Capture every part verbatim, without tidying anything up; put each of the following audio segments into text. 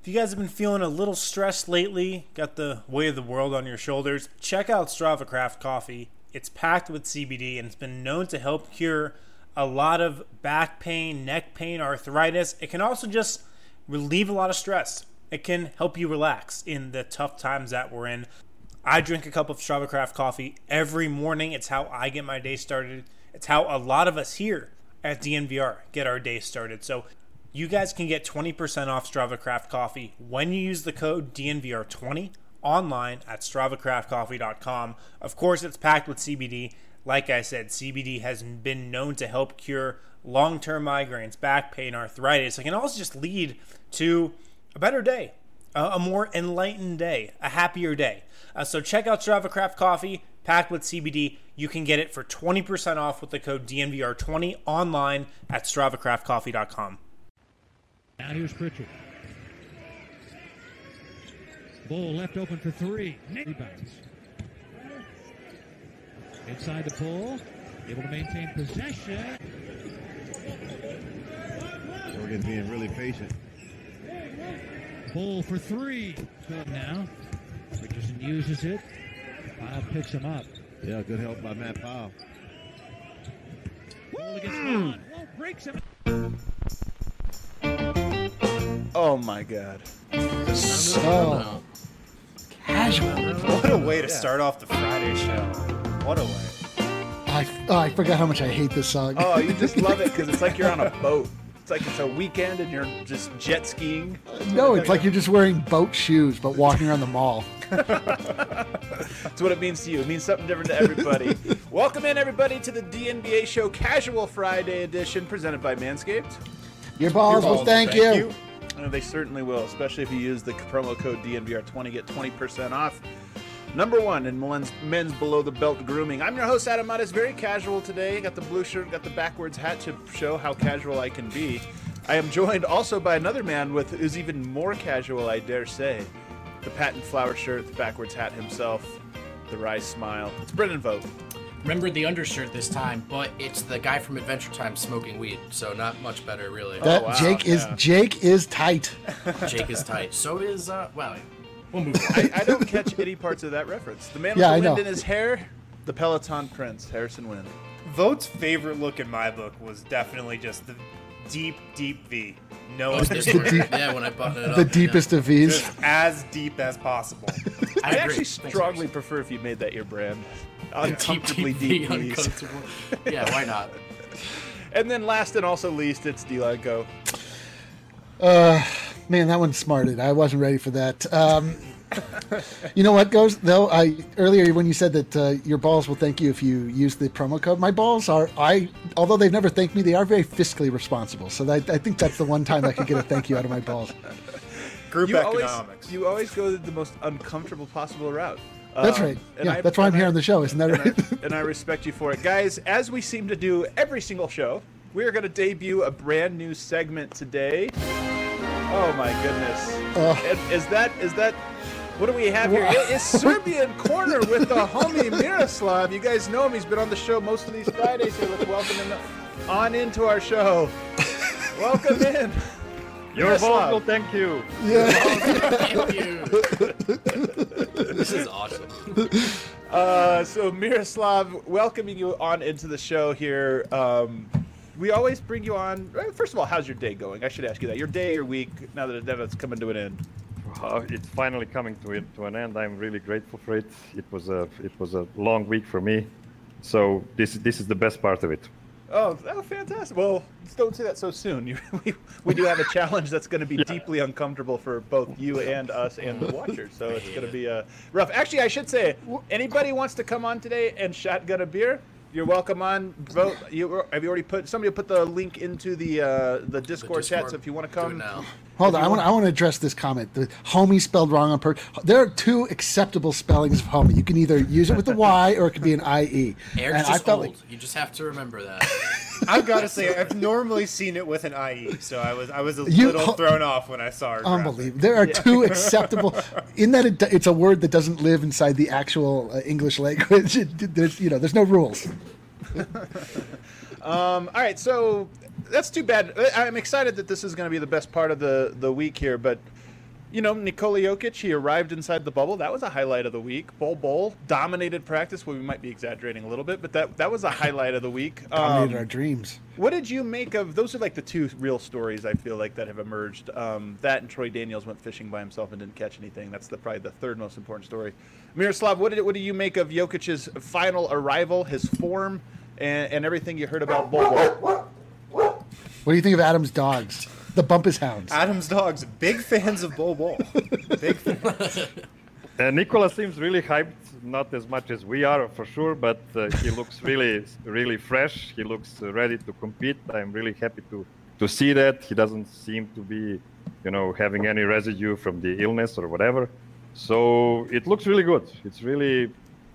If you guys have been feeling a little stressed lately, got the weight of the world on your shoulders, check out Strava Craft Coffee. It's packed with C B D and it's been known to help cure a lot of back pain, neck pain, arthritis. It can also just relieve a lot of stress. It can help you relax in the tough times that we're in. I drink a cup of Strava Craft coffee every morning. It's how I get my day started. It's how a lot of us here at D N V R get our day started. So you guys can get twenty percent off Strava Craft Coffee when you use the code D N V R twenty online at strava craft coffee dot com. Of course, it's packed with C B D. Like I said, C B D has been known to help cure long-term migraines, back pain, arthritis. It can also just lead to a better day, a more enlightened day, a happier day. Uh, so check out Strava Craft Coffee, packed with C B D. You can get it for twenty percent off with the code D N V R twenty online at strava craft coffee dot com. Now here's Pritchard. Bull left open for three. Rebounds. Inside the pull. Able to maintain possession. Oregon being really patient. Bull for three. Good now. Richardson uses it. Powell picks him up. Yeah, good help by Matt Powell. Bull against Vaughn. Bull breaks him. Oh my God. So casual. What a way to start off the Friday show. What a way. I, oh, I forgot how much I hate this song. Oh, you just love it because it's like you're on a boat. It's like it's a weekend and you're just jet skiing. No, it's like you're just wearing boat shoes but walking around the mall. That's what it means to you. It means something different to everybody. Welcome in, everybody, to the D N B A Show Casual Friday edition presented by Manscaped. Your balls will thank, thank you. you. Oh, they certainly will, especially if you use the promo code D N V R twenty, get twenty percent off. Number one in men's, men's below-the-belt grooming. I'm your host, Adam Mattis. Very casual today. Got the blue shirt, got the backwards hat to show how casual I can be. I am joined also by another man with who's even more casual, I dare say. The patent flower shirt, the backwards hat himself, the wry smile. It's Brendan Vogt. Remember the undershirt this time, but it's the guy from Adventure Time smoking weed, so not much better, really. That Oh, wow. Jake is Yeah. Jake is tight. Jake is tight. So is, uh, well, we'll move on. I, I don't catch any parts of that reference. The man with Yeah, the I wind know. in his hair, the Peloton Prince, Harrison Wind. Vogt's favorite look in my book was definitely just the deep, deep V. No, Oh, this one. Yeah, when I buttoned it up. The deepest of V's. just as deep as possible. I, I agree. actually Thanks, strongly Harrison. prefer if you made that your brand. Deep, Uncomfortably deep, deep, V, knees. uncomfortable. Yeah, why not? And then last and also least, it's D-Line Go. Uh, man, that one smarted. I wasn't ready for that. Um, you know what goes though? I earlier when you said that uh, your balls will thank you if you use the promo code. My balls are I, although they've never thanked me, they are very fiscally responsible. So that, I think that's the one time I could get a thank you out of my balls. Group You always, economics. you always go the most uncomfortable possible route. That's Um, right. and Yeah, I- that's why I'm and here I- on the show. Isn't that and right? I, and I respect you for it. Guys, as we seem to do every single show, we are going to debut a brand new segment today. Oh my goodness. Ugh. And is that, is that, what do we have here? It is Serbian Corner with the homie Miroslav. You guys know him. He's been on the show most of these Fridays here. Let's welcome him on into our show. Welcome in. Your balls will thank you. Thank you. This is awesome. Uh, so Miroslav, welcoming you on into the show here. Um, we always bring you on. First of all, how's your day going? I should ask you that. Your day, your week, now that it's coming to an end. Uh, it's finally coming to it, to an end. I'm really grateful for it. It was a it was a long week for me, so this this is the best part of it. Oh, oh fantastic. Well, don't say that so soon. You, we, we do have a challenge that's going to be Yeah. deeply uncomfortable for both you and us and the watchers. So it's going to be uh, rough. Actually, I should say, anybody wants to come on today and shotgun a beer, you're welcome on. Vote. You, have you already put, somebody put the link into the uh, the Discord, chat, Discord. so if you want to Do it come. now. Hold on, I want I want to address this comment. The homie spelled wrong on purpose. There are two acceptable spellings of homie. You can either use it with the Y or it could be an I E. Eric's And I just felt old. like You just have to remember that. I've got to say, I've normally seen it with an I E, so I was I was a You- little thrown off when I saw it. unbelievable. There are two acceptable. In that it, it's a word that doesn't live inside the actual uh, English language. It, there's you know there's no rules. Um, all right, so that's too bad. I- I'm excited that this is going to be the best part of the, the week here, but you know, Nikola Jokic, he arrived inside the bubble. That was a highlight of the week. Bol Bol dominated practice. Well, we might be exaggerating a little bit, but that that was a highlight of the week. Dominated Um, our dreams. What did you make of those? Are like the two real stories I feel like that have emerged. Um, that and Troy Daniels went fishing by himself and didn't catch anything. That's the probably the third most important story. Miroslav, what did what do you make of Jokic's final arrival, his form, and, and everything you heard about Bol Bol? What do you think of Adam's dogs? The Bumpus Hounds. Adam's dogs, big fans of Bol Bol. Big fans. Uh, Nikola seems really hyped, not as much as we are for sure, but uh, he looks really, really fresh. He looks uh, ready to compete. I'm really happy to, to see that. He doesn't seem to be, you know, having any residue from the illness or whatever. So it looks really good. It's really,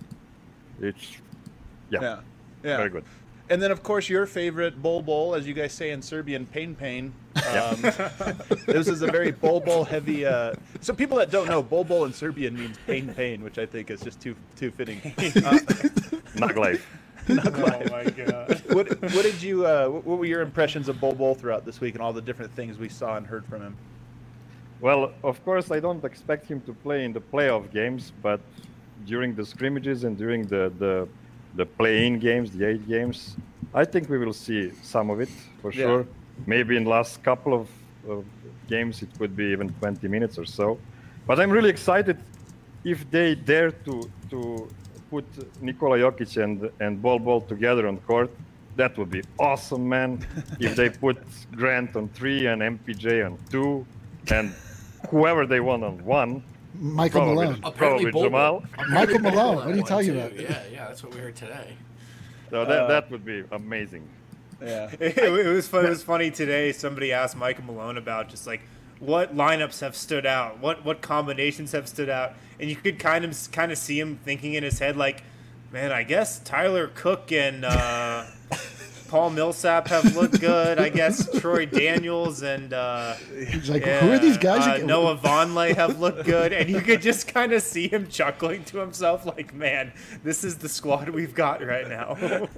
it's, yeah, Yeah, yeah. very good. And then, of course, your favorite Bol Bol, as you guys say in Serbian, Pain Pain. Um, this is a very Bol Bol heavy. Uh, so people that don't know, Bol Bol in Serbian means pain pain, which I think is just too too fitting. Uh, Not life. Oh my god. what what did you? Uh, what were your impressions of Bol Bol throughout this week and all the different things we saw and heard from him? Well, of course, I don't expect him to play in the playoff games, but during the scrimmages and during the, the, the play-in games, the eight games, I think we will see some of it for Yeah. sure. Maybe in the last couple of, of games, it could be even twenty minutes or so. But I'm really excited if they dare to to put Nikola Jokic and, and Bol Bol together on court. That would be awesome, man. If they put Grant on three and M P J on two, and whoever they want on one, Michael probably, Malone. Apparently, probably Bol Bol. Jamal. Michael Malone. What are you One, talking too. about? Yeah, yeah, that's what we heard today. So that, Uh, that would be amazing. Yeah. It, it was fun. It was funny today. Somebody asked Michael Malone about just like what lineups have stood out, what what combinations have stood out, and you could kind of kind of see him thinking in his head like, man, I guess Tyler Cook and uh, Paul Millsap have looked good. I guess Troy Daniels and uh, He's like, who are these guys? uh, again? Noah Vonleh have looked good, and you could just kind of see him chuckling to himself like, man, this is the squad we've got right now.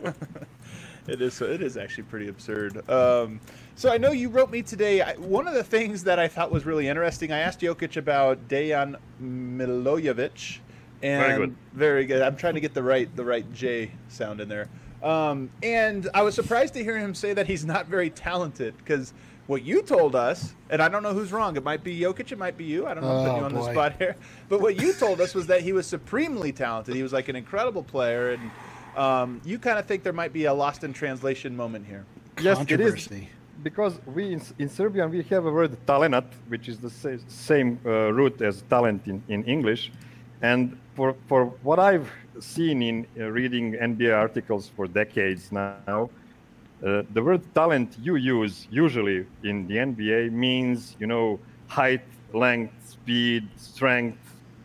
It is. It is actually pretty absurd. Um, so I know you wrote me today. I, one of the things that I thought was really interesting. I asked Jokic about Dejan Milojevic, and Very good. very good. I'm trying to get the right the right J sound in there. Um, and I was surprised to hear him say that he's not very talented because what you told us, and I don't know who's wrong. It might be Jokic. It might be you. I don't know. I'm putting Oh, you on the boy. spot here. But what you told us was that he was supremely talented. He was like an incredible player and. Um, you kind of think there might be a lost in translation moment here. Yes, it is. Controversy. Because we in, in Serbian we have a word talenat, which is the sa- same uh, root as talent in, in English, and for for what I've seen in uh, reading N B A articles for decades now, uh, the word talent you use usually in the N B A means you know height, length, speed, strength,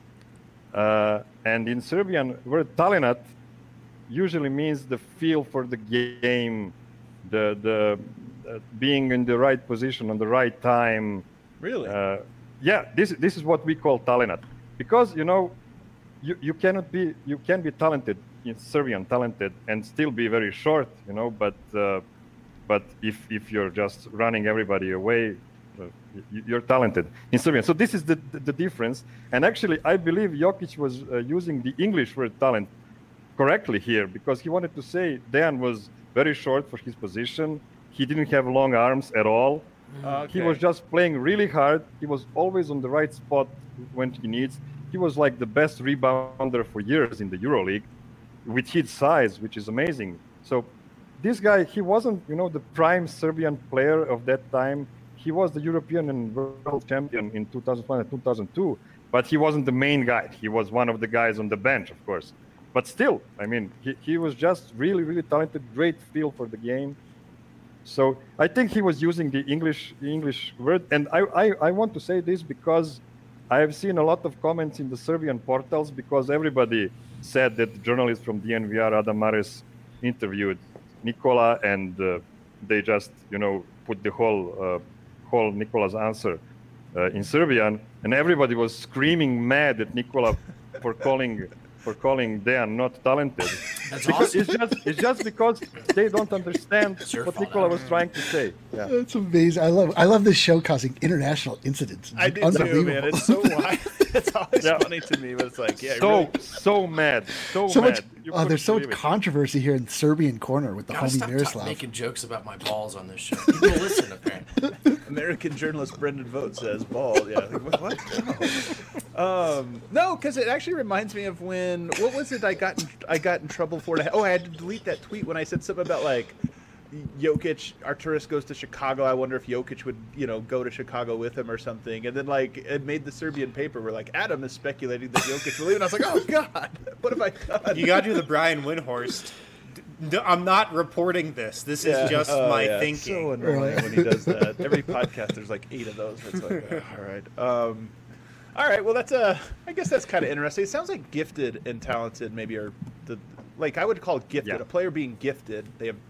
uh, and in Serbian word talenat usually means the feel for the game, the the uh, being in the right position on the right time. Really? Uh, yeah, this this is what we call talenat, because you know, you, you cannot be you can be talented in Serbian talented and still be very short, you know. But uh, but if if you're just running everybody away, uh, you, you're talented in Serbian. So this is the, the the difference. And actually, I believe Jokic was uh, using the English word talent correctly here because he wanted to say Dejan was very short for his position. He didn't have long arms at all. Okay. He was just playing really hard. He was always on the right spot when he needs. He was like the best rebounder for years in the EuroLeague with his size, which is amazing. So this guy, he wasn't, you know, the prime Serbian player of that time. He was the European and world champion in two thousand one and two thousand two, but he wasn't the main guy. He was one of the guys on the bench, of course. But still, I mean, he, he was just really, really talented, great feel for the game. So I think he was using the English the English word. And I, I, I want to say this because I have seen a lot of comments in the Serbian portals because everybody said that the journalist from D N V R, Adam Mares, interviewed Nikola and uh, they just, you know, put the whole, uh, whole Nikola's answer uh, in Serbian. And everybody was screaming mad at Nikola for calling for calling Dejan not talented. That's Because awesome. It's just it's just because they don't understand It's your what fault, Nikola Adam. was trying to say. Yeah. That's amazing. I love I love this show causing international incidents. It's I do too, unbelievable. man. It's so wild. It's always Yeah. funny to me, but it's like, yeah, So really, so mad. So, so mad. much. You Oh, couldn't there's so much believe it. controversy here in the Serbian corner with the Gotta homie stop ta- Miroslav. making jokes about my balls on this show. People listen, apparently. American journalist Brendan Vogt says bald. Yeah, like, what? what? No, um, no, because it actually reminds me of when what was it? I got in, I got in trouble for it. Oh, I had to delete that tweet when I said something about like Jokic. Arturis goes to Chicago. I wonder if Jokic would, you know, go to Chicago with him or something. And then like it made the Serbian paper where like Adam is speculating that Jokic will leave, and I was like, oh god, what have I done? You got to do the Brian Windhorst. D- I'm not reporting this. This is Yeah. just Oh, my yeah. It's thinking. so annoying when he does that. Every podcast, there's like eight of those. It's like, oh, all right, um, all right. Well, that's uh, I guess that's kind of interesting. It sounds like gifted and talented maybe are the like I would call it gifted. Yeah. A player being gifted, they have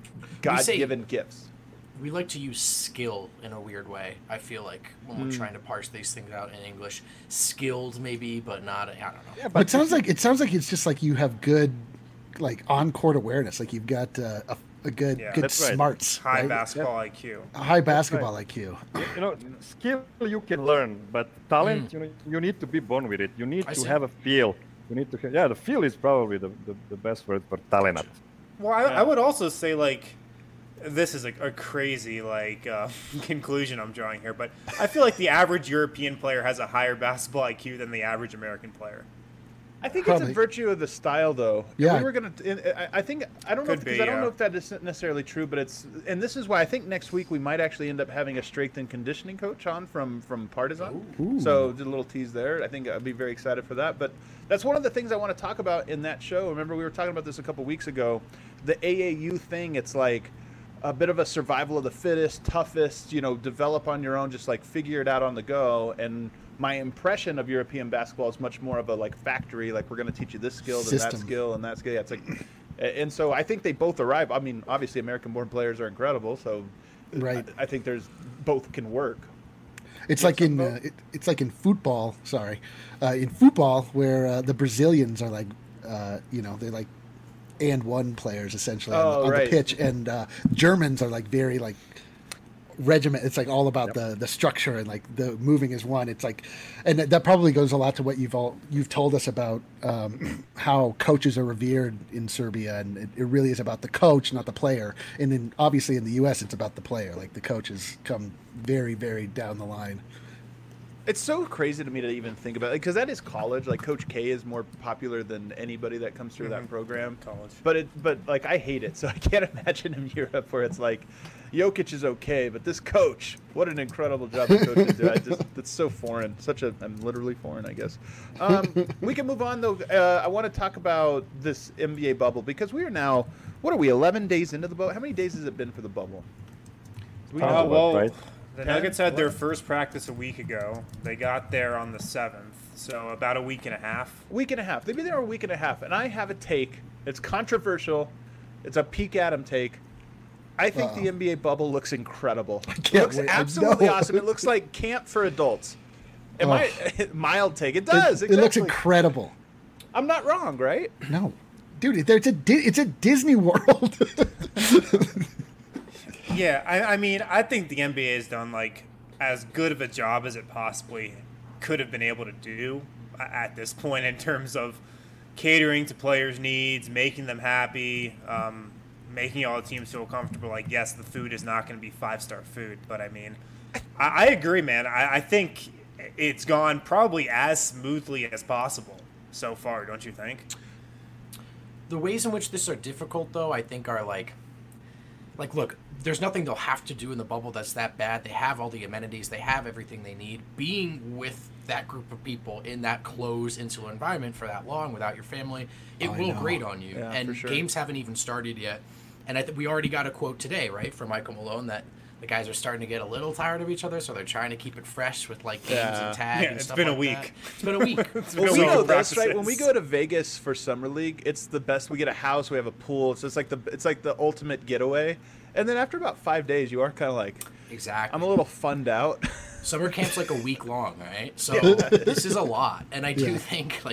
say- God-given gifts. We like to use skill in a weird way. I feel like when Hmm. we're trying to parse these things out in English, skilled maybe, but not. I don't know. Yeah, But it sounds like it sounds like it's just like you have good, like on court awareness. Like you've got uh, a, a good Yeah. good That's right. smarts, High right? basketball I Q. A high basketball I Q. you know, skill you can learn, but talent, you know, you need to be born with it. You need I to see. have a feel. You need to, ha- yeah, the feel is probably the, the, the best word for talent. Well, I, I would also say like this is a, a crazy like uh, conclusion I'm drawing here, but I feel like the average European player has a higher basketball I Q than the average American player. I think it's Probably. a virtue of the style, though. And Yeah. we were gonna. and I I think I don't know Could because be, I don't yeah. know if that is necessarily true, but it's and this is why I think next week we might actually end up having a strength and conditioning coach on from from Partizan. Ooh. So did a little tease there. I think I'd be very excited for that. But that's one of the things I want to talk about in that show. Remember we were talking about this a couple weeks ago. The A A U thing. It's like a bit of a survival of the fittest, toughest. You know, develop on your own. Just like figure it out on the go. And my impression of European basketball is much more of a like factory, like we're going to teach you this skill, then that System. skill, and that skill. Yeah, it's like, and so I think they both arrive. I mean, obviously American-born players are incredible, so Right. I, I think there's both can work. It's like in uh, it, it's like in football. Sorry, uh, in football where uh, the Brazilians are like, uh, you know, they're like and one players essentially on, Oh, the, on right. the pitch, and uh, Germans are like very like regiment. It's like all about the the structure and like the moving as one. It's like, and that, that probably goes a lot to what you've all you've told us about um, how coaches are revered in Serbia, and it, it really is about the coach, not the player. And then obviously in the U S, it's about the player. Like the coaches come very very down the line. It's so crazy to me to even think about it because that is college. Like Coach K is more popular than anybody that comes through that program. College. But it, but like I hate it, so I can't imagine in Europe where it's like, Jokic is okay, but this coach, what an incredible job the coaches do. I just, it's so foreign. Such a, I'm literally foreign, I guess. Um, we can move on though. Uh, I want to talk about this N B A bubble because we are now, what are we, eleven days into the bubble? How many days has it been for the bubble? Do we Uh, Uh, know? well, right? the Ten? Nuggets had their Eleven? first practice a week ago. They got there on the seventh, so about a week and a half. Week and a half. They've been there a week and a half, and I have a take. It's controversial. It's a peak Adam take. I think the N B A bubble looks incredible. It can't looks wait. I absolutely know. awesome. It looks like camp for adults. Am Oh. I mild take? It does. It, it looks exactly. incredible. I'm not wrong, right? No, dude, it- it's a Di- it's a Disney World. Yeah, I, I mean, I think the N B A has done like as good of a job as it possibly could have been able to do a- at this point in terms of catering to players' needs, making them happy, um, making all the teams feel comfortable. Like, yes, the food is not going to be five-star food, but I mean, I, I agree, man. I, I think it's gone probably as smoothly as possible so far, don't you think? The ways in which this are difficult, though, I think are like, like, look, there's nothing they'll have to do in the bubble that's that bad. They have all the amenities. They have everything they need. Being with that group of people in that closed, insular environment for that long without your family, it I will know. grate on you. Yeah, and for sure. games haven't even started yet. And I think we already got a quote today, right, from Michael Malone that the guys are starting to get a little tired of each other, so they're trying to keep it fresh with like games Yeah. and tag Yeah, and it's stuff been a like week. that. It's been a week. It's been Well, a we week know of this, right? When we practices. go to Vegas for summer league, it's the best. We get a house, we have a pool. It's just like the it's like the ultimate getaway. And then after about five days, you are kind of like, Exactly. I'm a little funned out. Summer camp's like a week long, right? So this is a lot, and I do Yeah. think like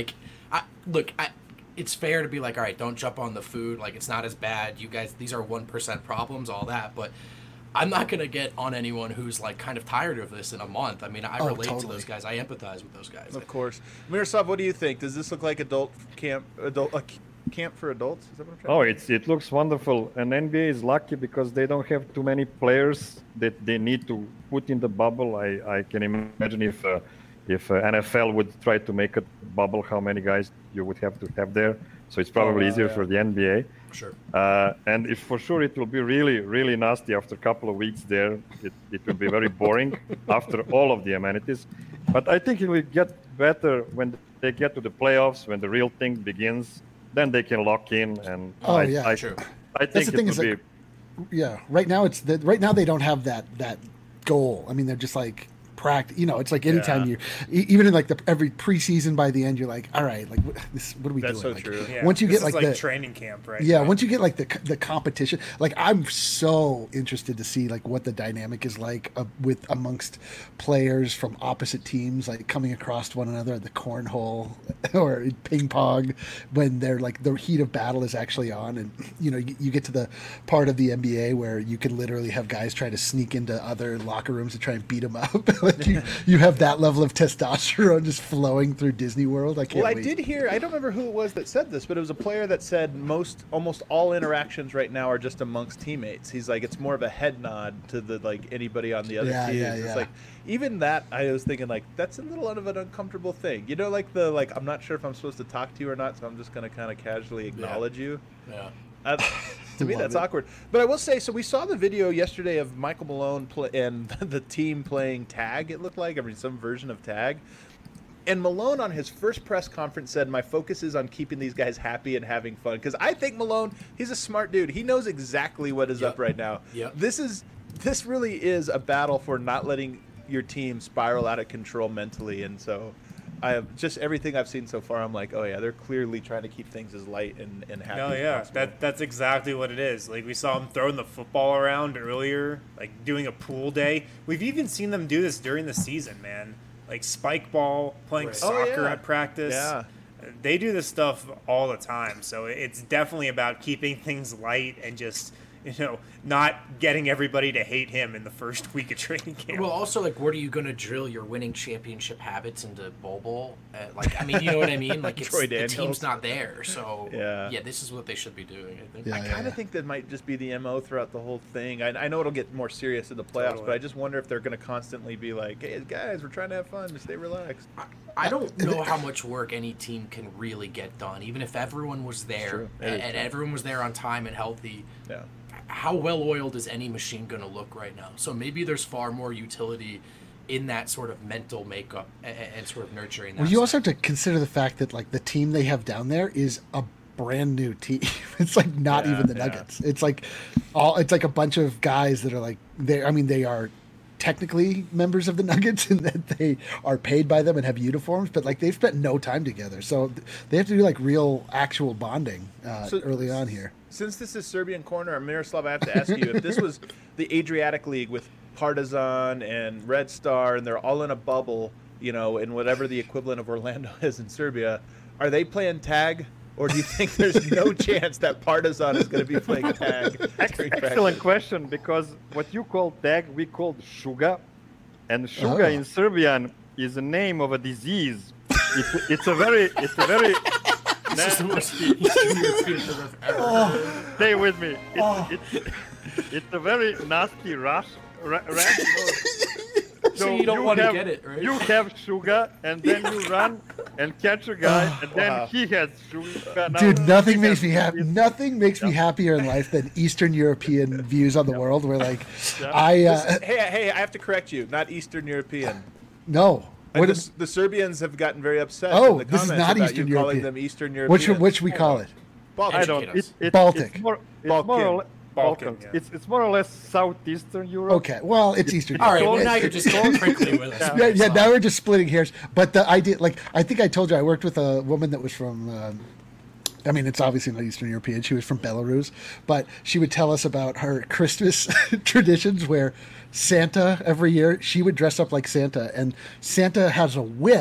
I, look, I, it's fair to be like, all right, don't jump on the food. Like, it's not as bad. You guys, these are one percent problems, all that. But I'm not going to get on anyone who's, like, kind of tired of this in a month. I mean, I Oh, relate to totally. those guys. I empathize with those guys. Of course. Miroslav, what do you think? Does this look like adult camp, adult uh, camp for adults? Is that what I'm trying Oh, to it's it looks wonderful, and N B A is lucky because they don't have too many players that they need to put in the bubble. I, I can imagine if uh, if uh, N F L would try to make a bubble, how many guys you would have to have there. So it's probably wow, easier yeah. for the N B A. Sure. Uh, and if for sure it will be really, really nasty after a couple of weeks there. It, it will be very boring after all of the amenities. But I think it will get better when they get to the playoffs, when the real thing begins. Then they can lock in. And Oh, I, yeah. I, True. I think the it thing will is, be. like, Yeah, right now it's the, right now they don't have that that goal. I mean, they're just like practice. You know, it's like anytime Yeah. you, e- even in like the every preseason, by the end, you're like, all right, like what, this, what are we That's doing? so Like, true. Yeah, Once you this get is like like the training camp, right? yeah, now. once you get like the the competition, like I'm so interested to see like what the dynamic is like uh, with amongst players from opposite teams, like coming across one another at the cornhole or in ping pong, when they're like the heat of battle is actually on, and you know you, you get to the part of the N B A where you can literally have guys try to sneak into other locker rooms to try and beat them up. Like you, you have that level of testosterone just flowing through Disney World. I can't. Well, I wait. did hear. I don't remember who it was that said this, but it was a player that said most, almost all interactions right now are just amongst teammates. He's like, it's more of a head nod to the like anybody on the other Yeah, teams. yeah, It's yeah. like even that. I was thinking like that's a little of an uncomfortable thing. You know, like the like I'm not sure if I'm supposed to talk to you or not, so I'm just gonna kind of casually acknowledge you. Yeah. Uh, to me, Love that's it. awkward. But I will say, so we saw the video yesterday of Michael Malone play, and the team playing tag. It looked like, I mean, some version of tag. And Malone on his first press conference said, "My focus is on keeping these guys happy and having fun." Because I think Malone, he's a smart dude. He knows exactly what is Yep. up right now. Yep. This is this really is a battle for not letting your team spiral out of control mentally. And so, I have just everything I've seen so far. I'm like, oh yeah, they're clearly trying to keep things as light and, and happy. No, as yeah, possible. that that's exactly what it is. Like we saw them throwing the football around earlier, like doing a pool day. We've even seen them do this during the season, man. Like spike ball, playing Right. soccer Oh, yeah. at practice. Yeah. They do this stuff all the time. So it's definitely about keeping things light and just, you know, not getting everybody to hate him in the first week of training camp. Well, also, like, what are you going to drill your winning championship habits into Bol Bol? Uh, like, I mean, you know what I mean? Like, it's, Troy the Daniels. team's not there. So, Yeah. yeah, this is what they should be doing, I think. Yeah. I kind of think that might just be the M O throughout the whole thing. I, I know it'll get more serious in the playoffs, Totally. but I just wonder if they're going to constantly be like, "Hey guys, we're trying to have fun. Just stay relaxed." I don't know how much work any team can really get done, even if everyone was there true. It and, is and true. everyone was there on time and healthy. Yeah. How well oiled is any machine going to look right now? So maybe there's far more utility in that sort of mental makeup and, and sort of nurturing that. Well, you stuff. also have to consider the fact that like the team they have down there is a brand new team. It's like not Yeah, even the yeah. Nuggets. It's like all. It's like a bunch of guys that are like they. I mean, they are technically members of the Nuggets in that they are paid by them and have uniforms, but like they've spent no time together, so they have to do like real, actual bonding uh, So- early on here. Since this is Serbian Corner, Miroslav, I have to ask you if this was the Adriatic League with Partizan and Red Star, and they're all in a bubble, you know, in whatever the equivalent of Orlando is in Serbia, are they playing tag? Or do you think there's no chance that Partizan is going to be playing tag? during Excellent practice? question, because what you call tag, we called shuga, and shuga Oh. in Serbian is a name of a disease. It's, it's a very, it's a very. This is the most Eastern European thing I've ever heard. Stay with me. It's, it's, it's a very nasty rash. Ra- rash. So you don't wanna have- get it, right? You have sugar, and then you run and catch a guy, and then Wow. he has sugar. Now Dude, nothing he makes has me happy. this- Nothing makes me happier in life than Eastern European views on the world. Where like, I uh, Hey, hey, I have to correct you. Not Eastern European. no. And What the, is the Serbians have gotten very upset. Oh, in the this is comments not about Eastern you calling European. them Eastern which Europeans. which we call it? Balkan. I don't. Educate us. It, it, Baltic. It's more, it's Balkan. more or less Balkan, Balkans. yeah. It's it's more or less southeastern Europe. Okay, well, it's Eastern. All right, Europe. well, now It's- you're just going quickly with us. yeah, yeah. Now we're just splitting hairs. But the idea, like, I think I told you, I worked with a woman that was from. Um, I mean, it's obviously not Eastern European. She was from Belarus, but she would tell us about her Christmas traditions where Santa every year she would dress up like Santa, and Santa has a whip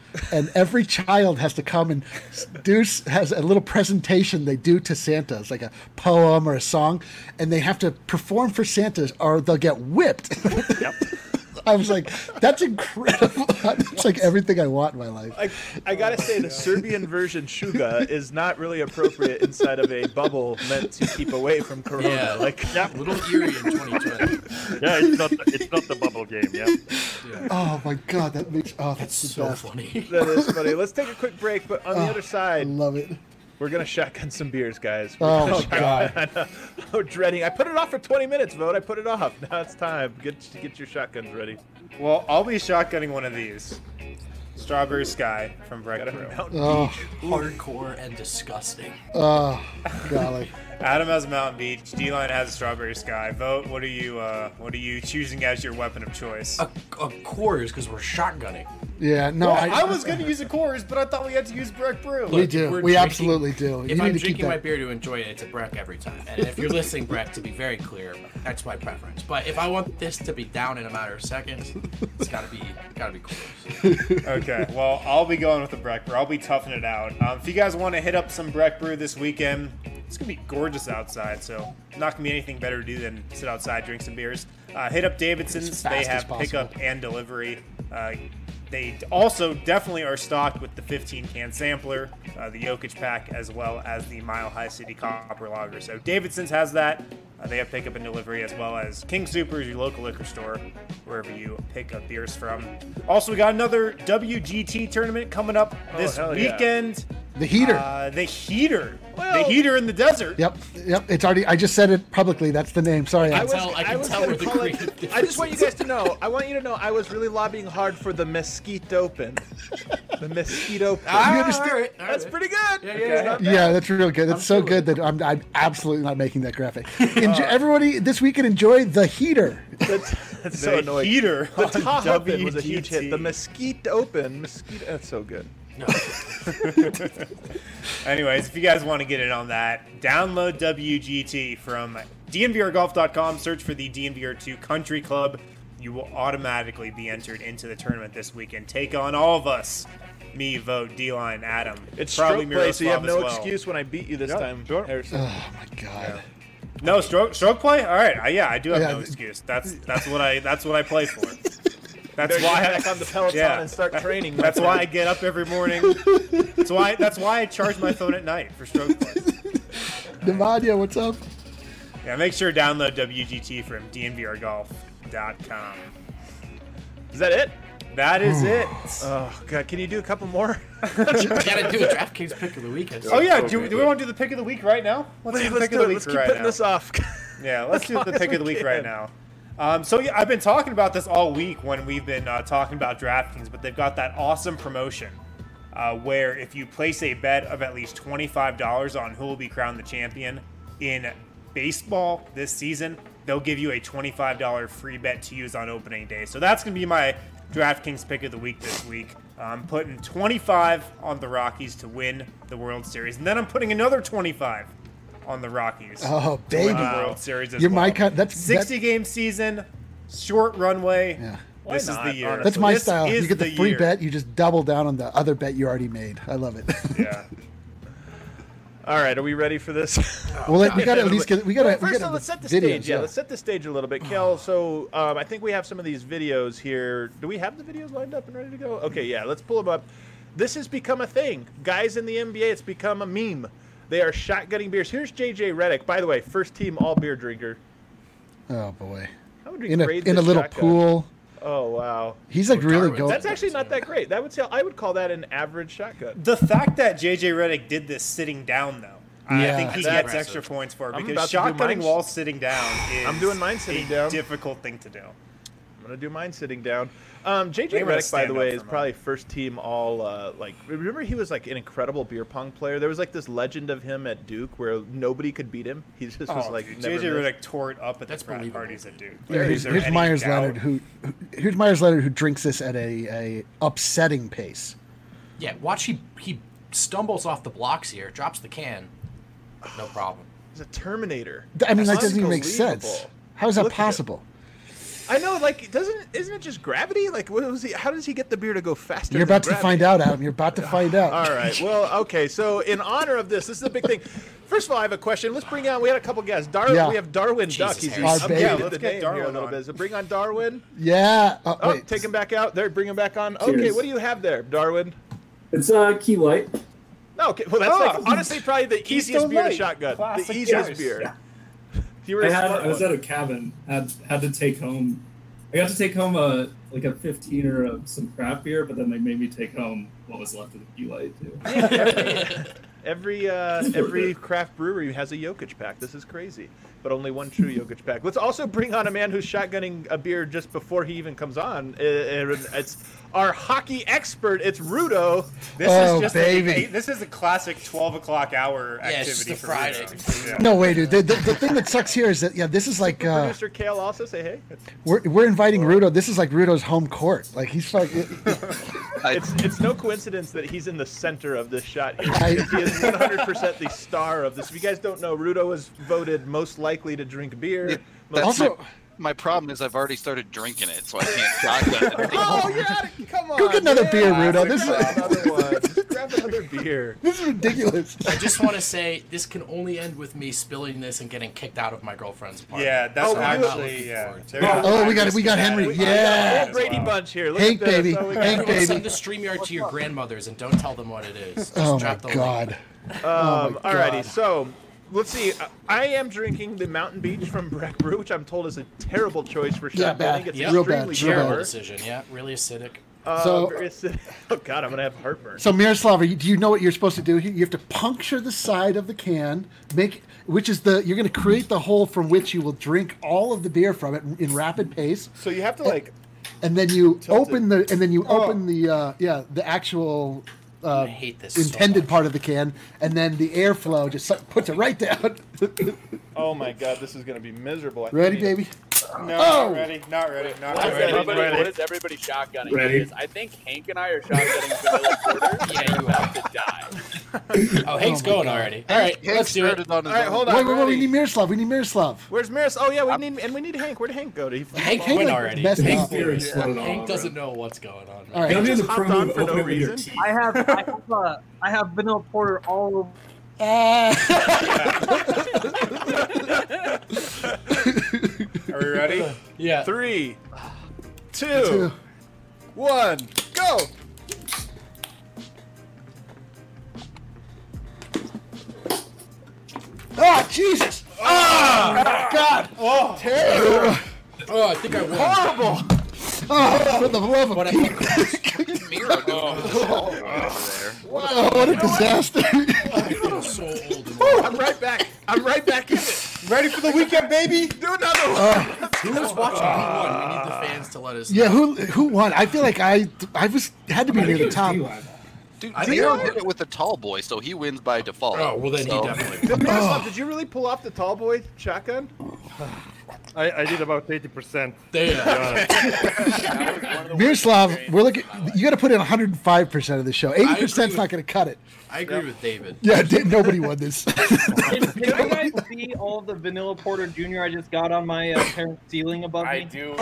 and every child has to come and do has a little presentation they do to Santa. It's like a poem or a song, and they have to perform for Santa, or they'll get whipped. Yep. I was like, that's incredible. It's like everything I want in my life. I, I gotta say, the Serbian version Shuga is not really appropriate inside of a bubble meant to keep away from Corona. Yeah, Like, a little eerie in twenty twenty. Yeah, it's not it's not the bubble game. Yeah. Yeah. Oh my god, that makes oh that's It's the so best. funny. that is funny. Let's take a quick break, but on the other I side, love it. we're gonna shotgun some beers, guys. We're Oh, gonna God. shotgun- I'm dreading. I put it off for twenty minutes, Vote. I put it off. Now it's time. Get get your shotguns ready. Well, I'll be shotgunning one of these. Strawberry Sky from Breck Got a Brew. Mountain Oh, Hardcore and disgusting. oh, golly. Adam has Mountain Beach. D-Line has a Strawberry Sky. Vote. What are you? Uh, what are you choosing as your weapon of choice? A, a Coors because we're shotgunning. Yeah, no, Well, I, I was going to use a Coors, but I thought we had to use Breck Brew. we Look, do. we're We drinking- absolutely do. If You need I'm to keep drinking my that. beer to enjoy it, it's a Breck every time. And if you're listening, Breck, to be very clear, that's my preference. But if I want this to be down in a matter of seconds, it's gotta be gotta be Coors. Okay, well, I'll be going with the Breck Brew. I'll be toughing it out. Um, if you guys want to hit up some Breck Brew this weekend, it's going to be gorgeous outside, so not going to be anything better to do than sit outside, drink some beers. Uh, hit up Davidson's. As They fast as have possible. pickup and delivery. Uh, they also definitely are stocked with the fifteen can sampler, uh, the Jokic pack, as well as the Mile High City Copper Lager. So Davidson's has that. Uh, they have pickup and delivery, as well as King Soopers, your local liquor store, wherever you pick up beers from. Also, we got another W G T tournament coming up this hell yeah. weekend. The heater. Uh, the heater. Well- the heater in the desert. Yep, yep. It's already. I just said it publicly. That's the name. Sorry. I I was- tell- I can tell gonna where the call it- creative I just want you guys to know. I want you to know. I was really lobbying hard for the Mesquite Open. The Mesquite Open. Ah, understand- all right, all That's right. pretty good. Yeah, yeah, Okay, yeah. not bad. Yeah, that's real good. That's so good that I'm, I'm absolutely not making that graphic. Enjoy, everybody this weekend enjoy the heater. That's, that's so The annoying. heater The on Tahoe Open was a huge W G T. hit. The Mesquite Open. Mesquite. That's so good. No. Anyways, if you guys want to get in on that, download W G T from D N V R golf dot com. Search for the D N V R two Country Club. You will automatically be entered into the tournament this weekend. Take on all of us. Me, Vote, D-Line, Adam. It's probably stroke play, so you have Miroslav no as well. excuse when I beat you this Yeah, time, sure. Harrison. Oh my god. No stroke stroke play. All right, I, yeah, I do have Yeah. no excuse. That's that's what I that's what I play for. That's Better why get I, back on the Peloton yeah. and start training. my That's why I friend. get up every morning. That's why that's why I charge my phone at night for stroke play. Navadia, what's up? Yeah, make sure to download W G T from D N V R golf dot com. Is that it? That is it. Oh god, can you do a couple more? Gotta do a DraftKings pick of the weekend. Oh yeah, so do, good. do we want to do the pick of the week right now? Let's do the Let's pick do of it. the week Let's keep right putting now. this off. Yeah, let's do the long pick as of the we week right can. now. Um, so yeah, I've been talking about this all week when we've been uh, talking about DraftKings, but they've got that awesome promotion uh, where if you place a bet of at least twenty-five dollars on who will be crowned the champion in baseball this season, they'll give you a twenty-five dollars free bet to use on opening day. So that's going to be my DraftKings pick of the week this week. I'm putting twenty-five on the Rockies to win the World Series, and then I'm putting another twenty-five on the Rockies. Oh, to win baby. the World Series as You're well. my kind- that's- sixty game season, short runway. Yeah. Why This not, is the year. honestly? That's my This style. is You get the, the free year. bet, you just double down on the other bet you already made. I love it. Yeah. All right, are we ready for this? well, let, we got to at least get. We got to. Well, we first, got let's set the videos, stage. Yeah, let's set the stage a little bit. Kel, so um, I think we have some of these videos here. Do we have the videos lined up and ready to go? Okay, yeah, let's pull them up. This has become a thing. Guys in the N B A, it's become a meme. They are shotgunning beers. Here's J J Redick, by the way, first team all beer drinker. Oh boy. How would we In a grade in a this little shotgun? pool. Oh, wow. He's like Oh, really Darwin. going. That's actually not that great. That would say I would call that an average shotgun. The fact that J J Redick did this sitting down, though, Yeah. I think he That's gets impressive. extra points for it I'm because about to do shotgunning mine- while sitting down is I'm doing mine sitting a down. difficult thing to do. I'm gonna do mine sitting down. Um, J J I'm gonna Redick, by stand the up way, for is mine. probably first team all. Uh, like, remember he was like an incredible beer pong player. There was like this legend of him at Duke where nobody could beat him. He just was Oh, like dude, never J J missed. Redick tore it up at That's the frat believable. parties at Duke. Yeah, here's Is there here's any Myers doubt? Leonard who, who here's Myers Leonard who drinks this at a, a upsetting pace. Yeah, watch he he stumbles off the blocks here, drops the can, no problem. He's a Terminator. I mean, that That's doesn't even make sense. unbelievable. How is that Look at him. possible? I know, like, doesn't isn't it just gravity? Like, what was he? How does he get the beer to go faster? You're than about to gravity? find out, Adam. You're about to find out. All right. Well, okay. So, in honor of this, this is a big thing. First of all, I have a question. Let's bring on. We had a couple guests. Darwin. Yeah. We have Darwin Jesus, Duck. He's Harry. Our updated baby. Yeah, the let's get name here a Darwin little on. bit. So, bring on Darwin. Yeah. Oh, Oh, wait. take him back out. There, bring him back on. Okay, Cheers. what do you have there, Darwin? It's uh, Key Light. Okay, well, that's Oh. like honestly probably the Keystone easiest beer to Light. shotgun. Classic The easiest choice. beer. Yeah. You were I a had smart I was one. at a cabin. Had had to take home. I got to take home a like a fifteen-er of some craft beer, but then they made me take home what was left of the Key Light too. Every uh, every craft brewery has a Jokic pack. This is crazy, but only one true Jokic pack. Let's also bring on a man who's shotgunning a beer just before he even comes on. Uh, It's our hockey expert. It's Rudo. This Oh, is just baby. A, this is a classic twelve o'clock hour Yeah, it's activity just a for Friday. Rudo. Yeah. No way, dude. The, the, the thing that sucks here is that yeah, this is like uh, Producer Kale also say hey. we're we're inviting Rudo. This is like Rudo's home court. Like he's fucking. It's it's no coincidence that he's in the center of this shot here. I- He is one hundred percent the star of this. If you guys don't know, Rudo was voted most likely to drink beer. Yeah, Most- that's Also- my, my problem is I've already started drinking it, so I can't shotgun it. Oh, you're out of, come on. Go get another man. beer, Rudo. This is- Grab another one. Just grab another beer. This is ridiculous. I just want to say this can only end with me spilling this and getting kicked out of my girlfriend's apartment. Yeah, that's Oh, we do- actually yeah. There's Oh, we got we got Henry. We got Yeah. a whole Brady Bunch here. Look Hank, at this. baby. Oh, we got- Hank, Everyone baby. send the StreamYard to your grandmothers and don't tell them what it is. Just Oh my drop the link. god. Um, Oh my alrighty, God. so let's see. I am drinking the Mountain Beach from Breck Brew, which I'm told is a terrible choice for Yeah, shotgunning. bad. It's Yep. Real bad, extremely real Terrible bad. sour. decision. Yeah, really acidic. Uh, So- very acidic. Oh god, I'm gonna have heartburn. So Miroslav, are you- do you know what you're supposed to do here? You have to puncture the side of the can, make which is the you're going to create the hole from which you will drink all of the beer from it in rapid pace, So you have to like. and then you Tilt open the and then you open the uh, yeah the actual uh, I hate this so intended much. part of the can, and then the airflow just su- puts it right down. Oh my god, this is gonna be miserable. I Ready, think- baby? No, Oh! not ready, not ready, not What is, ready. everybody, ready. what is everybody shotgunning? Ready. Because I think Hank and I are shotgunning vanilla porter. Yeah, you have to die. Oh, Hank's going already. All right, Hank let's do it. started on his All right, own. hold on. Wait, wait, wait! We ready. need Miroslav. We need Miroslav. Where's Maris? Oh yeah, we need and we need Hank. Where'd Hank go? Did he? Hank Hank, went like, already. messed Hank, up. Beer exploded all Hank over doesn't him. know what's going on. All right. Can I do the Just hopped pro on move? for no Open it with your reason. teeth. I have I have, uh, I have vanilla porter all over. Are we ready? Yeah. Three, Two. two, one, go. Oh Jesus! Oh God! Oh, terrible! Oh, I think I won. Horrible. Oh, for the love of But I Pete! Miro doing Oh, there. what a disaster! feel so old. And Oh, I'm right back. I'm right back in it. Ready for the weekend, baby? Do another one. Who was watching? Who won? We need the fans to let us know. Yeah, who who won? I feel like I I was had to be I near think the it was top. D-Live. Dude, I think Miro I- did it with the tall boy, so he wins by default. Oh, well then So- he definitely. Did, Miroslav, did you really pull off the tall boy shotgun? I, I did about eighty percent. There. Miroslav, we're looking. You got to put in one hundred five percent of the show. eighty percent's with- not going to cut it. I agree with David. Yeah, di- nobody won this. Can, can you guys see all of the vanilla porter Junior I just got on my uh, parents' ceiling above me? I do.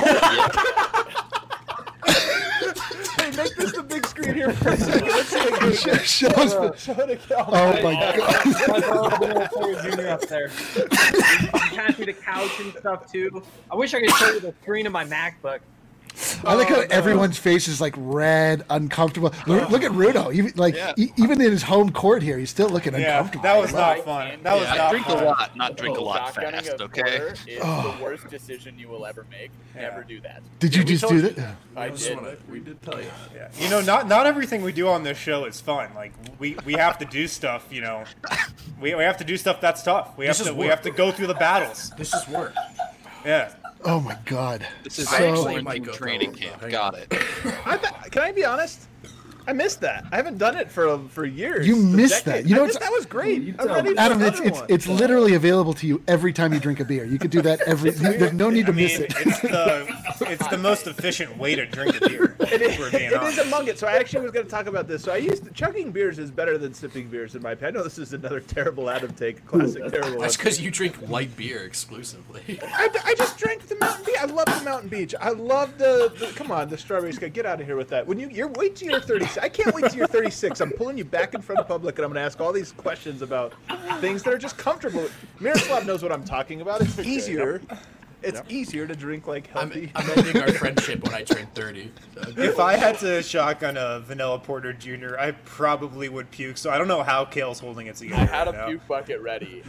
Hey, make this the big screen here for a second. Let's see it. Show- Show us the- Show it again. Oh my God! My vanilla vanilla porter Junior up there. You pass me the couch and stuff too. I wish I could show you the screen of my MacBook. I like how everyone's face is like red, uncomfortable. Look, look at Rudo. Even like Yeah. e- even in his home court here, he's still looking Yeah, uncomfortable. that was not fun. That was Yeah, not drink fun. a lot, not drink a lot Shotgunning fast, a okay? porter is Oh. the worst decision you will ever make. Never do that. Did you Yeah, we just told do you. that? I did. We did tell you. Yeah. You know, not not everything we do on this show is fun. Like we, we have to do stuff. You know, we, we have to do stuff that's tough. We have This to is we work. have to go through the battles. This is work. Yeah. Oh my God! This is I so actually might go training though. camp. Hang Got on. it. I th- can I be honest? I missed that. I haven't done it for for years. You a missed decade. that. You know I what's- missed- that was great. You I'm tell ready me. for Adam, it's another it's one. it's literally available to you every time you drink a beer. You could do that every. There's no need I to mean, miss it. it's the it's the most efficient way to drink a beer. It is, We're being it is honest. among it. So I actually was going to talk about this. So I used to, chugging beers is better than sipping beers in my opinion. I know this is another terrible Adam take, classic terrible. That's Adam because take. you drink light beer exclusively. I, I just drank the Mountain Beach. I love the Mountain Beach. I love the, the come on, the strawberry sky. Get out of here with that. When you you're wait till you're thirty-six. I can't wait till you're thirty-six. I'm pulling you back in front of public, and I'm going to ask all these questions about things that are just comfortable. Miroslav knows what I'm talking about. It's easier. It's easier to drink like healthy. I'm ending our friendship when I turn thirty. If I had to shotgun a Vanilla Porter Junior, I probably would puke. So I don't know how Kale's holding it together. I had a right now. puke bucket ready.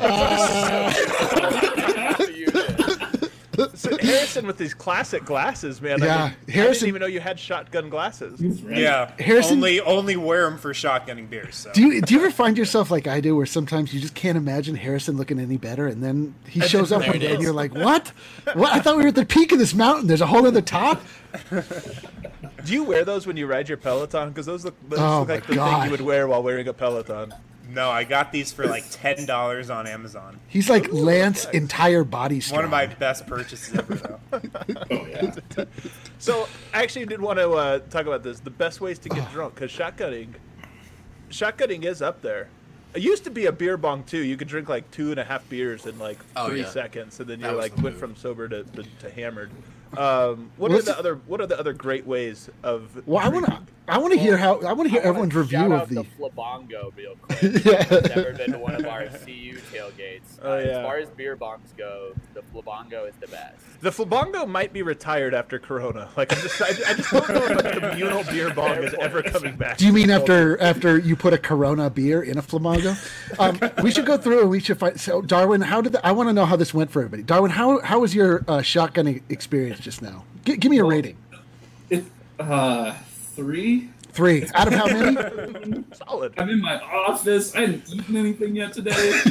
So Harrison with these classic glasses, man. Yeah, I, mean, I Harrison- didn't even know you had shotgun glasses. Yeah, Harrison- only only wear them for shotgunning beers. So. Do you do you ever find yourself like I do, where sometimes you just can't imagine Harrison looking any better, and then he shows up There one it day and is. you're like, "What? What? I thought we were at the peak of this mountain. There's a whole other top." Do you wear those when you ride your Peloton? Because those look, those Oh look my like the thing God. you would wear while wearing a Peloton. No, I got these for like ten dollars on Amazon. He's like Lance entire body strong. One of my best purchases ever, though. Oh yeah. So I actually did want to uh, talk about this. The best ways to get drunk, because shotgunning, shotgunning is up there. It used to be a beer bong too. You could drink like two and a half beers in like Oh, three yeah. seconds, and then That you was like the went move. from sober to, to, to hammered. Um, what What's are the the- other What are the other great ways of? Well, I want to. I want to hear how. I want to hear I wanna everyone's review shout of out the. the Flabongo real quick. Yeah. I've never been to one of our C U tailgates. Oh, Uh, yeah. As far as beer bongs go, the Flabongo is the best. The Flabongo might be retired after Corona. Like I'm just, I, I just don't know if the communal beer bong is ever coming back. Do you mean after after you put a Corona beer in a Flamingo? Um, we should go through and we should find. So, Darwin, how did the, I want to know how this went for everybody? Darwin, how how was your uh, shotgunning experience just now? G- give me a rating. It, uh, three. Three out of how many? Solid. I'm in my office. I haven't eaten anything yet today.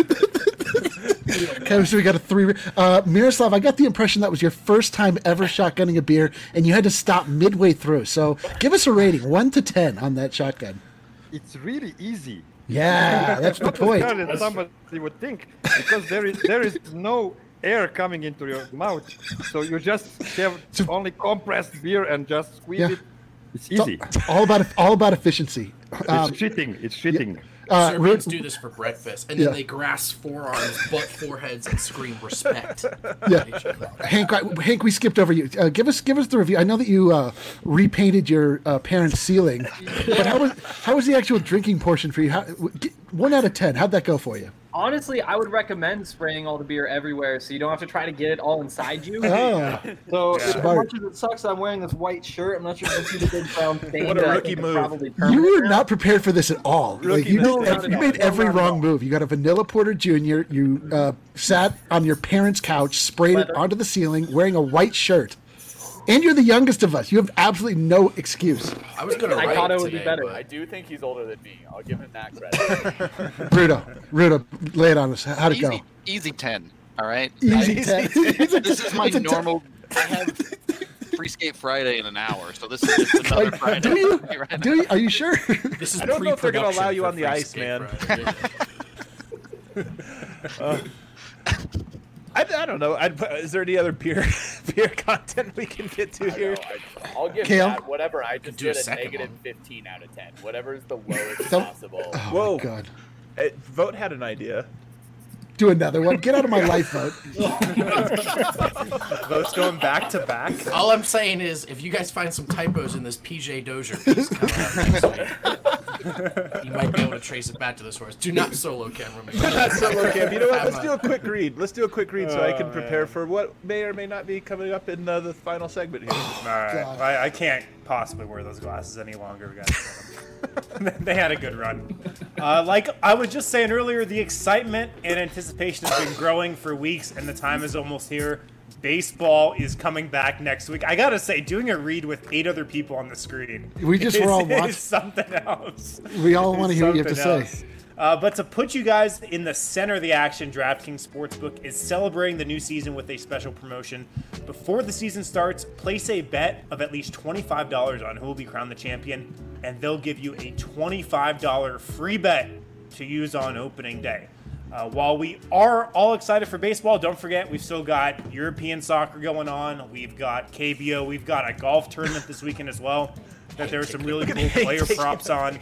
Okay, so we got a three. Uh, Miroslav, I got the impression that was your first time ever shotgunning a beer, and you had to stop midway through. So, give us a rating, one to ten, on that shotgun. It's really easy. Yeah, that's the Not as point. hard as somebody would think, because there is there is no air coming into your mouth, so you just have only compressed beer and just squeeze Yeah. it. It's It's all- easy. all about all about efficiency. Um, it's cheating. It's cheating. uh, Serbians Ru- do this for breakfast, and Yeah. then they grasp forearms, butt foreheads, and scream respect. Yeah, Hank, I, Hank, we skipped over you. Uh, give us, give us the review. I know that you uh, repainted your uh, parents' ceiling, but how was how was the actual drinking portion for you? How, w- g- one out of ten. How'd that go for you? Honestly, I would recommend spraying all the beer everywhere so you don't have to try to get it all inside you. Oh, So as Smart. much as it sucks that I'm wearing this white shirt, I'm not sure if you see the big brown stain. What a that I rookie think is move. Probably you permanent were now. not prepared for this at all. Like, Rookie you mistake. made, No, not you at made all. every No, not at wrong all. move. You got a Vanilla Porter Junior You uh, sat on your parents' couch, sprayed it Leather. onto the ceiling, wearing a white shirt, and you're the youngest of us. You have absolutely no excuse. I was gonna I write thought it would be today, better. but I do think he's older than me. I'll give him that credit. Rudo, Rudo, lay it on us. How'd it go? Easy, easy ten. All right. Easy I- ten. This is my It's a ten. normal. I have free skate Friday in an hour, so this is just another Like, Friday. do you? Right now. Do you? Are you sure? this is I don't know if they're gonna allow pre-production you for on the Free ice, Skate man. Friday. Uh, I, I don't know. I'd, put- is there any other beer beer content we can get to I here? know, I, I'll give Kale? that whatever. I just do a did a second negative one. fifteen out of ten. Whatever is the lowest Don't- possible. Oh Whoa. my God! Uh, Vote had an idea. Do another one. Get out of my life, vote. Votes going back to back. All I'm saying is, if you guys find some typos in this P J Dozier piece coming out next week, you might be able to trace it back to the source. Do not solo camera me. That's so okay. You know what? Let's Have do a- a quick read. Let's do a quick read so I can Oh, prepare man. for what may or may not be coming up in uh, the final segment here. All right, God. I, I can't possibly wear those glasses any longer. We gotta they had a good run. Uh, like I was just saying earlier, the excitement and anticipation has been growing for weeks, and the time is almost here. Baseball is coming back next week. I gotta say, doing a read with eight other people on the screen, We just is, were all is watching. something else. We all want to hear what you have to Something say. else. Uh, but to put you guys in the center of the action, DraftKings Sportsbook is celebrating the new season with a special promotion. Before the season starts, place a bet of at least twenty-five dollars on who will be crowned the champion, and they'll give you a twenty-five dollars free bet to use on opening day. Uh, while we are all excited for baseball, don't forget we've still got European soccer going on. We've got K B O. We've got a golf tournament this weekend as well that there are some really cool player props on.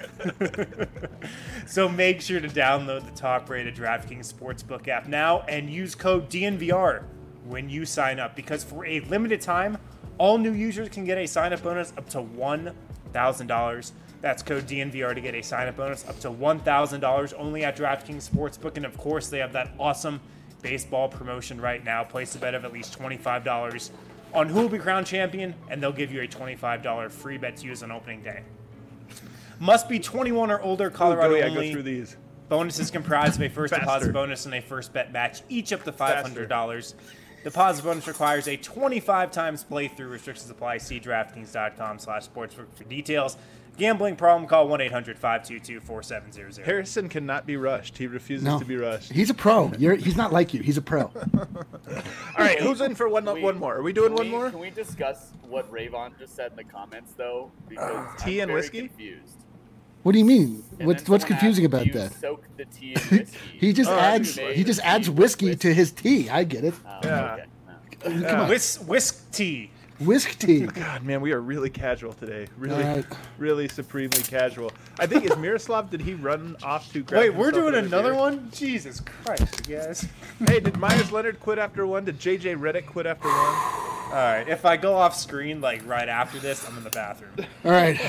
So make sure to download the top-rated DraftKings Sportsbook app now and use code D N V R when you sign up, because for a limited time, all new users can get a sign-up bonus up to one thousand dollars. That's code D N V R to get a sign-up bonus up to one thousand dollars only at DraftKings Sportsbook. And, of course, they have that awesome baseball promotion right now. Place a bet of at least twenty-five dollars on who will be crowned champion, and they'll give you a twenty-five dollars free bet to use on opening day. Must be twenty-one or older, Colorado Ooh, go, yeah, only. Go through these. Bonuses comprised of a first Faster. deposit bonus and a first bet match, each up to five hundred dollars. Deposit bonus requires a twenty-five times playthrough. Restrictions apply. See DraftKings.com slash sportsbook for details. Gambling problem, call one eight hundred five two two four seven zero zero. Harrison cannot be rushed. He refuses No. to be rushed. He's a pro. You're, he's not like you. He's a pro. All right, who's in for one, Can we- one more? Are we doing can one we- more? Can we discuss what Rayvon just said in the comments, though? Because Tea I'm and very whiskey? Confused. What do you mean? And What's then what's someone confusing asked, about "Do you that? Soak the tea in whiskey. He just Oh, adds you he made just the adds tea with whiskey whiskey. to his tea. I get it. Oh, Yeah. okay. Come Yeah. on. Whisk, whisk tea. Whisk tea. God, man, we are really casual today. Really, All right. really supremely casual. I think, is Miroslav, did he run off to grab Wait, we're himself doing another beer? one? Jesus Christ, you guys. Hey, did Myers Leonard quit after one? Did J J Redick quit after one? All right, if I go off screen, like, right after this, I'm in the bathroom. All right.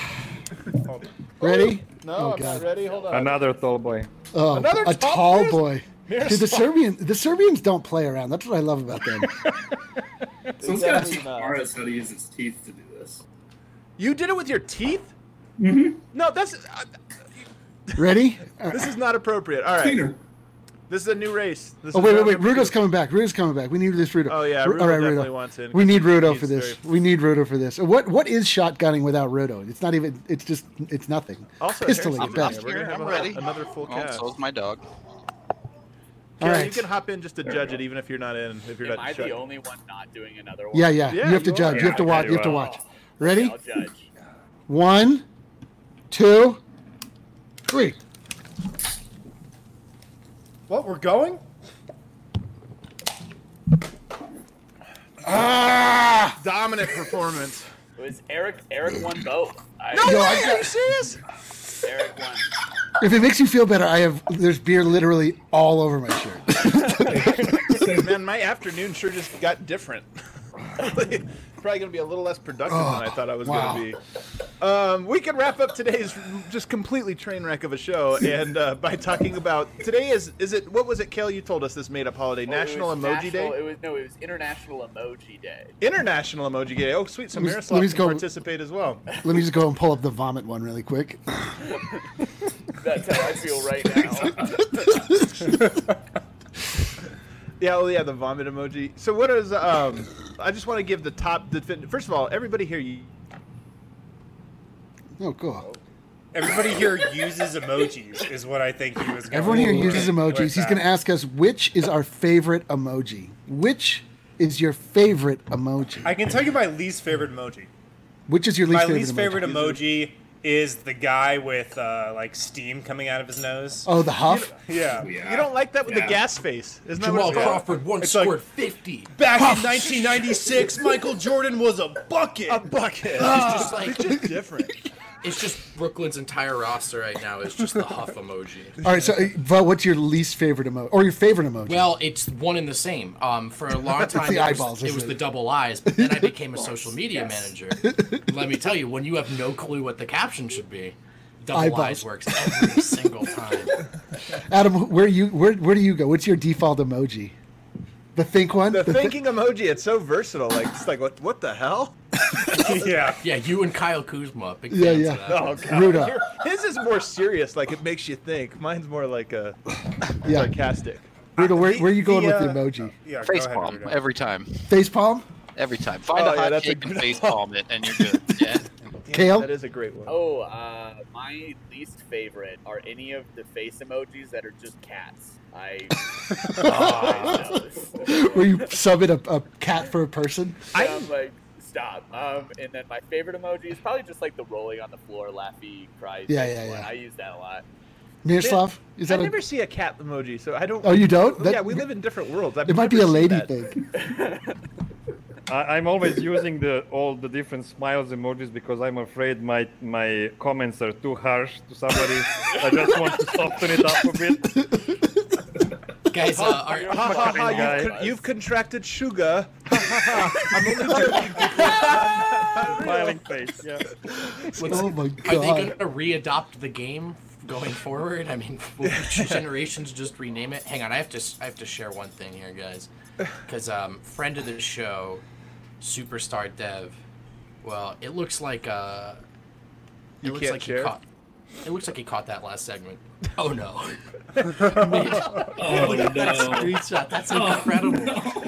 Ready? No, Oh, I'm God. not ready. Hold on. Another tall boy. Oh, Another a top tall person? boy. Dude, the Miroslav. Serbian the Serbians don't play around. That's what I love about them. Someone's got to Exactly teach not. Morris how to use his teeth to do this. You did it with your teeth? Mm-hmm. No, that's. Uh, Ready? this is not appropriate. All right. Cleaner. This is a new race. This Oh is wait, wait, round wait! number Rudo's two. coming back. Rudo's coming back. We need this Rudo. Oh, yeah, Ru- Rudo All right, definitely Rudo. wants in, We need 'cause Rudo he's for this. very- We need Rudo for this. What what is shotgunning without Rudo? It's not even. It's just. It's nothing. Also, Pistoling Harrison, at I'm, I'm best. We're gonna here. have I'm a- ready. another full Oh, cast. so's my dog. All Kelly, right. you can hop in just to judge it, even if you're not in. If you're Am not I shut- the only one not doing another one? Yeah, yeah. Yeah, you have to you judge. are. You have to Yeah, watch. okay, You have to well. watch. Ready? I'll judge. One, two, three. What, we're going? Ah, dominant performance. It was Eric. Eric won both. I, No Yo, way! I Are you serious? Eric won. If it makes you feel better, I have. There's beer literally all over my shirt. Man, my afternoon sure just got different. Probably going to be a little less productive Oh, than I thought I was wow. going to be. Um, we can wrap up today's just completely train wreck of a show, and uh, by talking about today is is it what was it, Kel? You told us this made up holiday, Well, it National was Emoji national, Day, It was no, it was International Emoji Day. International Emoji Day. Oh, sweet, so Let me- Miroslav let me can go- participate as well. Let me just go and pull up the vomit one really quick. That's how I feel right now. Yeah, oh yeah, the vomit emoji. So what is um? I just want to give the top. Defin- First of all, everybody here, you, Oh, cool. Everybody here uses emojis, is what I think he was going Everyone here with uses emojis. He's that. going to ask us which is our favorite emoji. Which is your favorite emoji? I can tell you my least favorite emoji. Which is your least My favorite least emoji? favorite emoji is the guy with uh, like steam coming out of his nose. Oh, the huff? Yeah. Yeah. you don't like that with Yeah. the gas face, isn't that Jamal what it's called? Crawford once It's like- scored fifty. Back in nineteen ninety-six, Michael Jordan was a bucket. A bucket. It's just like It's just different. it's just Brooklyn's entire roster right now is just the huff emoji. All right, so, uh, Vo, what's your least favorite emoji? Or your favorite emoji? Well, it's one and the same. Um, for a long It's time, the it, eyeballs, was, it isn't was it? the double eyes, but then I became a social media manager. Let me tell you, when you have no clue what the caption should be, double Eyeballs. eyes works every single time. Adam, where you where where do you go? What's your default emoji? The think one? The The thi- thinking emoji, it's so versatile. Like it's like what what the hell? yeah. Yeah, you and Kyle Kuzma, big Yeah, fans yeah. of that. Oh god. Ruda. Your- His is more serious, like it makes you think. Mine's more like a Yeah. sarcastic. Ruda, where, where are you going The, with the uh, emoji? Yeah, go Face ahead, palm Rudo. every time. Face palm? Every time. Find Oh, a yeah, hot that's a shape and good face one. palm it, and you're good. Yeah. Kale? That is a great one. Oh, uh, my least favorite are any of the face emojis that are just cats. I. Oh. Where you sub in a, a cat for a person? I, am like, stop. Um, and then my favorite emoji is probably just like the rolling on the floor, laughy, cries. Yeah, face yeah, one. yeah. I use that a lot. Miroslav, is that I a- never see a cat emoji, so I don't. Oh, you don't? That- yeah, we live in different worlds. I've It might be never a seen lady that. thing. I, I'm always using the all the different smiles emojis because I'm afraid my my comments are too harsh to somebody. I just want to soften it up a bit. Guys, uh, are, Ha, ha, ha, Kind guy. you've, con- you've contracted sugar. Ha, ha, ha. I'm only joking. Smiling face. Yeah. what's- Oh my are they god. going to re-adopt the game going forward? I mean, will future generations just rename it? Hang on, I have to I have to share one thing here, guys, because um, friend of the show, Superstar Dev. Well, it looks like uh, it You looks can't like share? he caught. It looks like he caught that last segment. Oh no! Oh Look at that no. screenshot. That's Oh, incredible.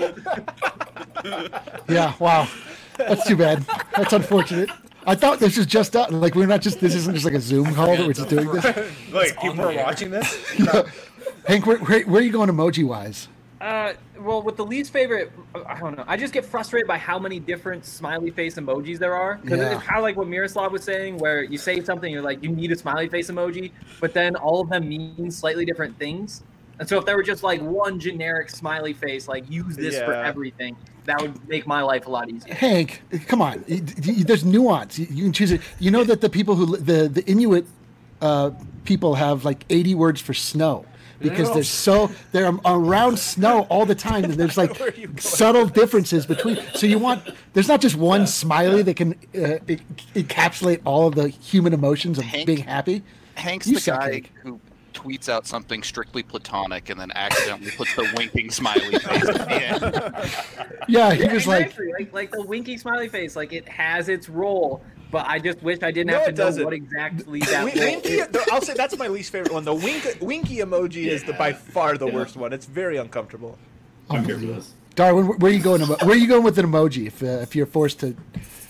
Yeah, wow. That's too bad. That's unfortunate. I thought this was just done. Like, we're not just, this isn't just like a Zoom call that we're just doing this. Wait, on people are the air. watching this? Hank, where, where, where are you going emoji wise? Uh, well, with the least favorite, I don't know. I just get frustrated by how many different smiley face emojis there are. Because Yeah. it's kind of like what Miroslav was saying, where you say something, you're like, you need a smiley face emoji, but then all of them mean slightly different things. And so if there were just like one generic smiley face, like use this for Yeah. everything, that would make my life a lot easier. Hank, come on. Y- y- There's nuance. You you can choose it. You know that the people who, li- the, the Inuit uh, people have like eighty words for snow. Because No. there's so they're am- around snow all the time, and there's like subtle differences between. So you want there's not just one smiley that can uh, e- encapsulate all of the human emotions of Hank- being happy. Hank's You the suck, guy Hank. who tweets out something strictly platonic and then accidentally puts the winking smiley face at the end. Yeah, he was like, Exactly. like like the winky smiley face, like it has its role, but I just wish I didn't No, have it to know doesn't. what exactly that Win- role winky, is. the- I'll say that's my least favorite one. The wink, winky emoji is the by far the worst one. It's very uncomfortable. I'm here for this. Darwin, where are you going? emo- Where are you going with an emoji if uh, if you're forced to?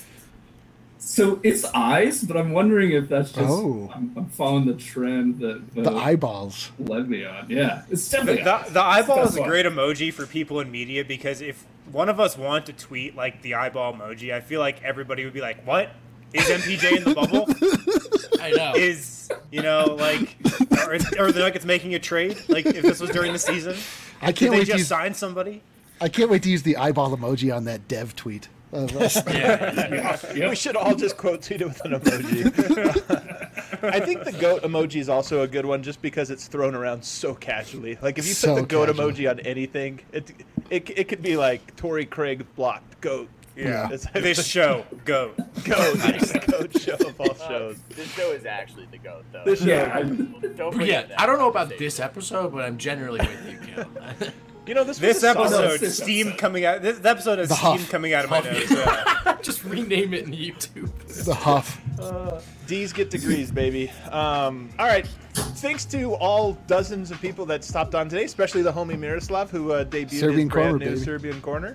So it's eyes, but I'm wondering if that's just Oh. I'm, I'm following the trend that The eyeballs. led me on. Yeah, it's The, definitely the, eyes. the eyeball It's is a the best great emoji for people in media because if one of us wanted to tweet like the eyeball emoji, I feel like everybody would be like, "What is M P J in the bubble? I know. Is you know like, or, is- or the Nuggets making a trade? Like if this was during the season, I did can't they wait to just use, sign somebody? I can't wait to use the eyeball emoji on that dev tweet. of us. Yeah, We yep. should all just quote tweet it with an emoji. I think the goat emoji is also a good one just because it's thrown around so casually. Like if you So put the goat casual. emoji on anything, it it, it could be like Torrey Craig blocked goat. Yeah. It's like This show, go. goat, the goat show of all shows. This show is actually the GOAT, though. This show, Yeah, I- Don't forget Yeah, that. I don't know about this episode, but I'm generally with you, Kel. you know, this This was a solid- episode, this steam episode. coming out. This episode has The steam huff. coming out of my nose. Yeah. Just rename it in YouTube. The huff. D's get degrees, baby. Um, all right. Thanks to all dozens of people that stopped on today, especially the homie Miroslav, who uh, debuted Serbian his brand Corner, new baby. Serbian corner.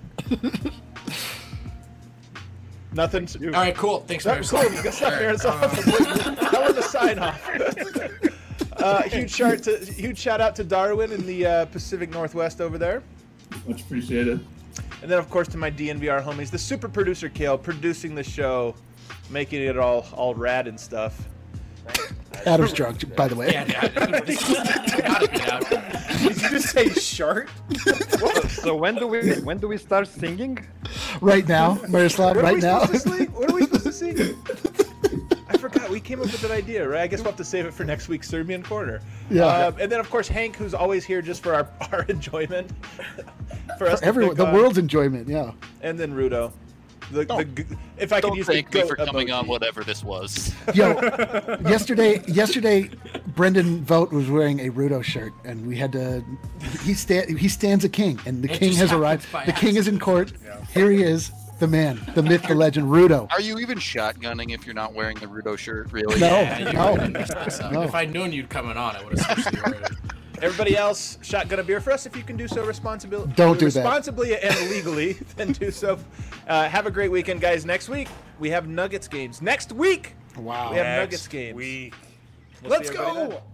Nothing. To, All right, cool. Thanks, That- cool. Miroslav. You got stuff, All right, Miroslav. uh, That was a sign off. Uh, huge shout to huge shout out to Darwin in the uh, Pacific Northwest over there, much appreciated. and then of course to my D N V R homies, the super producer Kale, producing the show, making it all all rad and stuff. Adam's drunk, by the way. Yeah, yeah. This is- gotta get out. Did you just say shark? So when do we when do we start singing? Right now, Miroslav, What are right we now. supposed to sing? What are we supposed to sing? I forgot. We came up with that idea, right? I guess we'll have to save it for next week's Serbian Corner. Yeah. Um, and then, of course, Hank, who's always here just for our, our enjoyment. for us For to everyone, pick the on. world's enjoyment, yeah. And then Rudo. The, the, Don't- g- if I could Don't use thank the me goat for coming emoji. on whatever this was. Yo, yesterday, yesterday, Brendan Vogt was wearing a Rudo shirt, and we had to. He sta- He stands a king, and the It king just has happens arrived. by The king is in court. Here he is, the man, the myth, the legend, Rudo. Are you even shotgunning if you're not wearing the Rudo shirt, really? No. Yeah, you no. would've messed this up. No. If I'd known you'd coming on, I would have switched the order. Everybody else, shotgun a beer for us if you can do so responsibly. Don't do that. responsibly and legally. Then do so. Uh, have a great weekend, guys. Next week we have Nuggets games. Next week Wow. we have Next Nuggets games. week. We'll Let's see everybody go!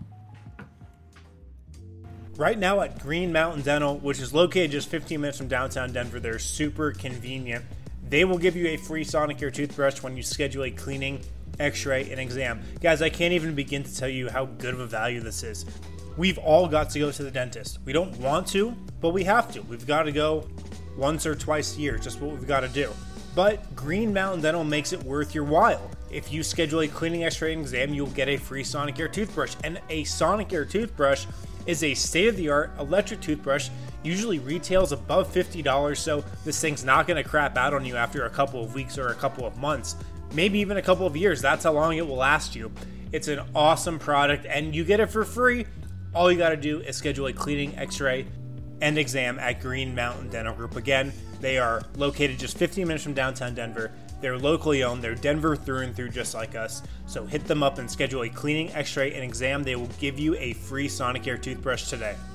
Right now at Green Mountain Dental, which is located just fifteen minutes from downtown Denver, they're super convenient. They will give you a free Sonicare toothbrush when you schedule a cleaning x-ray, and exam. Guys, I can't even begin to tell you how good of a value this is. We've all got to go to the dentist. We don't want to, but we have to. We've got to go once or twice a year, just what we've got to do. But Green Mountain Dental makes it worth your while. If you schedule a cleaning, x-ray, and exam, you'll get a free Sonicare toothbrush. And a Sonicare toothbrush is a state-of-the-art electric toothbrush, usually retails above fifty dollars, so this thing's not going to crap out on you after a couple of weeks or a couple of months, maybe even a couple of years. That's how long it will last you. It's an awesome product, and you get it for free. All you got to do is schedule a cleaning, x-ray, and exam at Green Mountain Dental Group. Again, they are located just fifteen minutes from downtown Denver. They're locally owned. They're Denver through and through, just like us. So hit them up and schedule a cleaning, x-ray, and exam. They will give you a free Sonicare toothbrush today.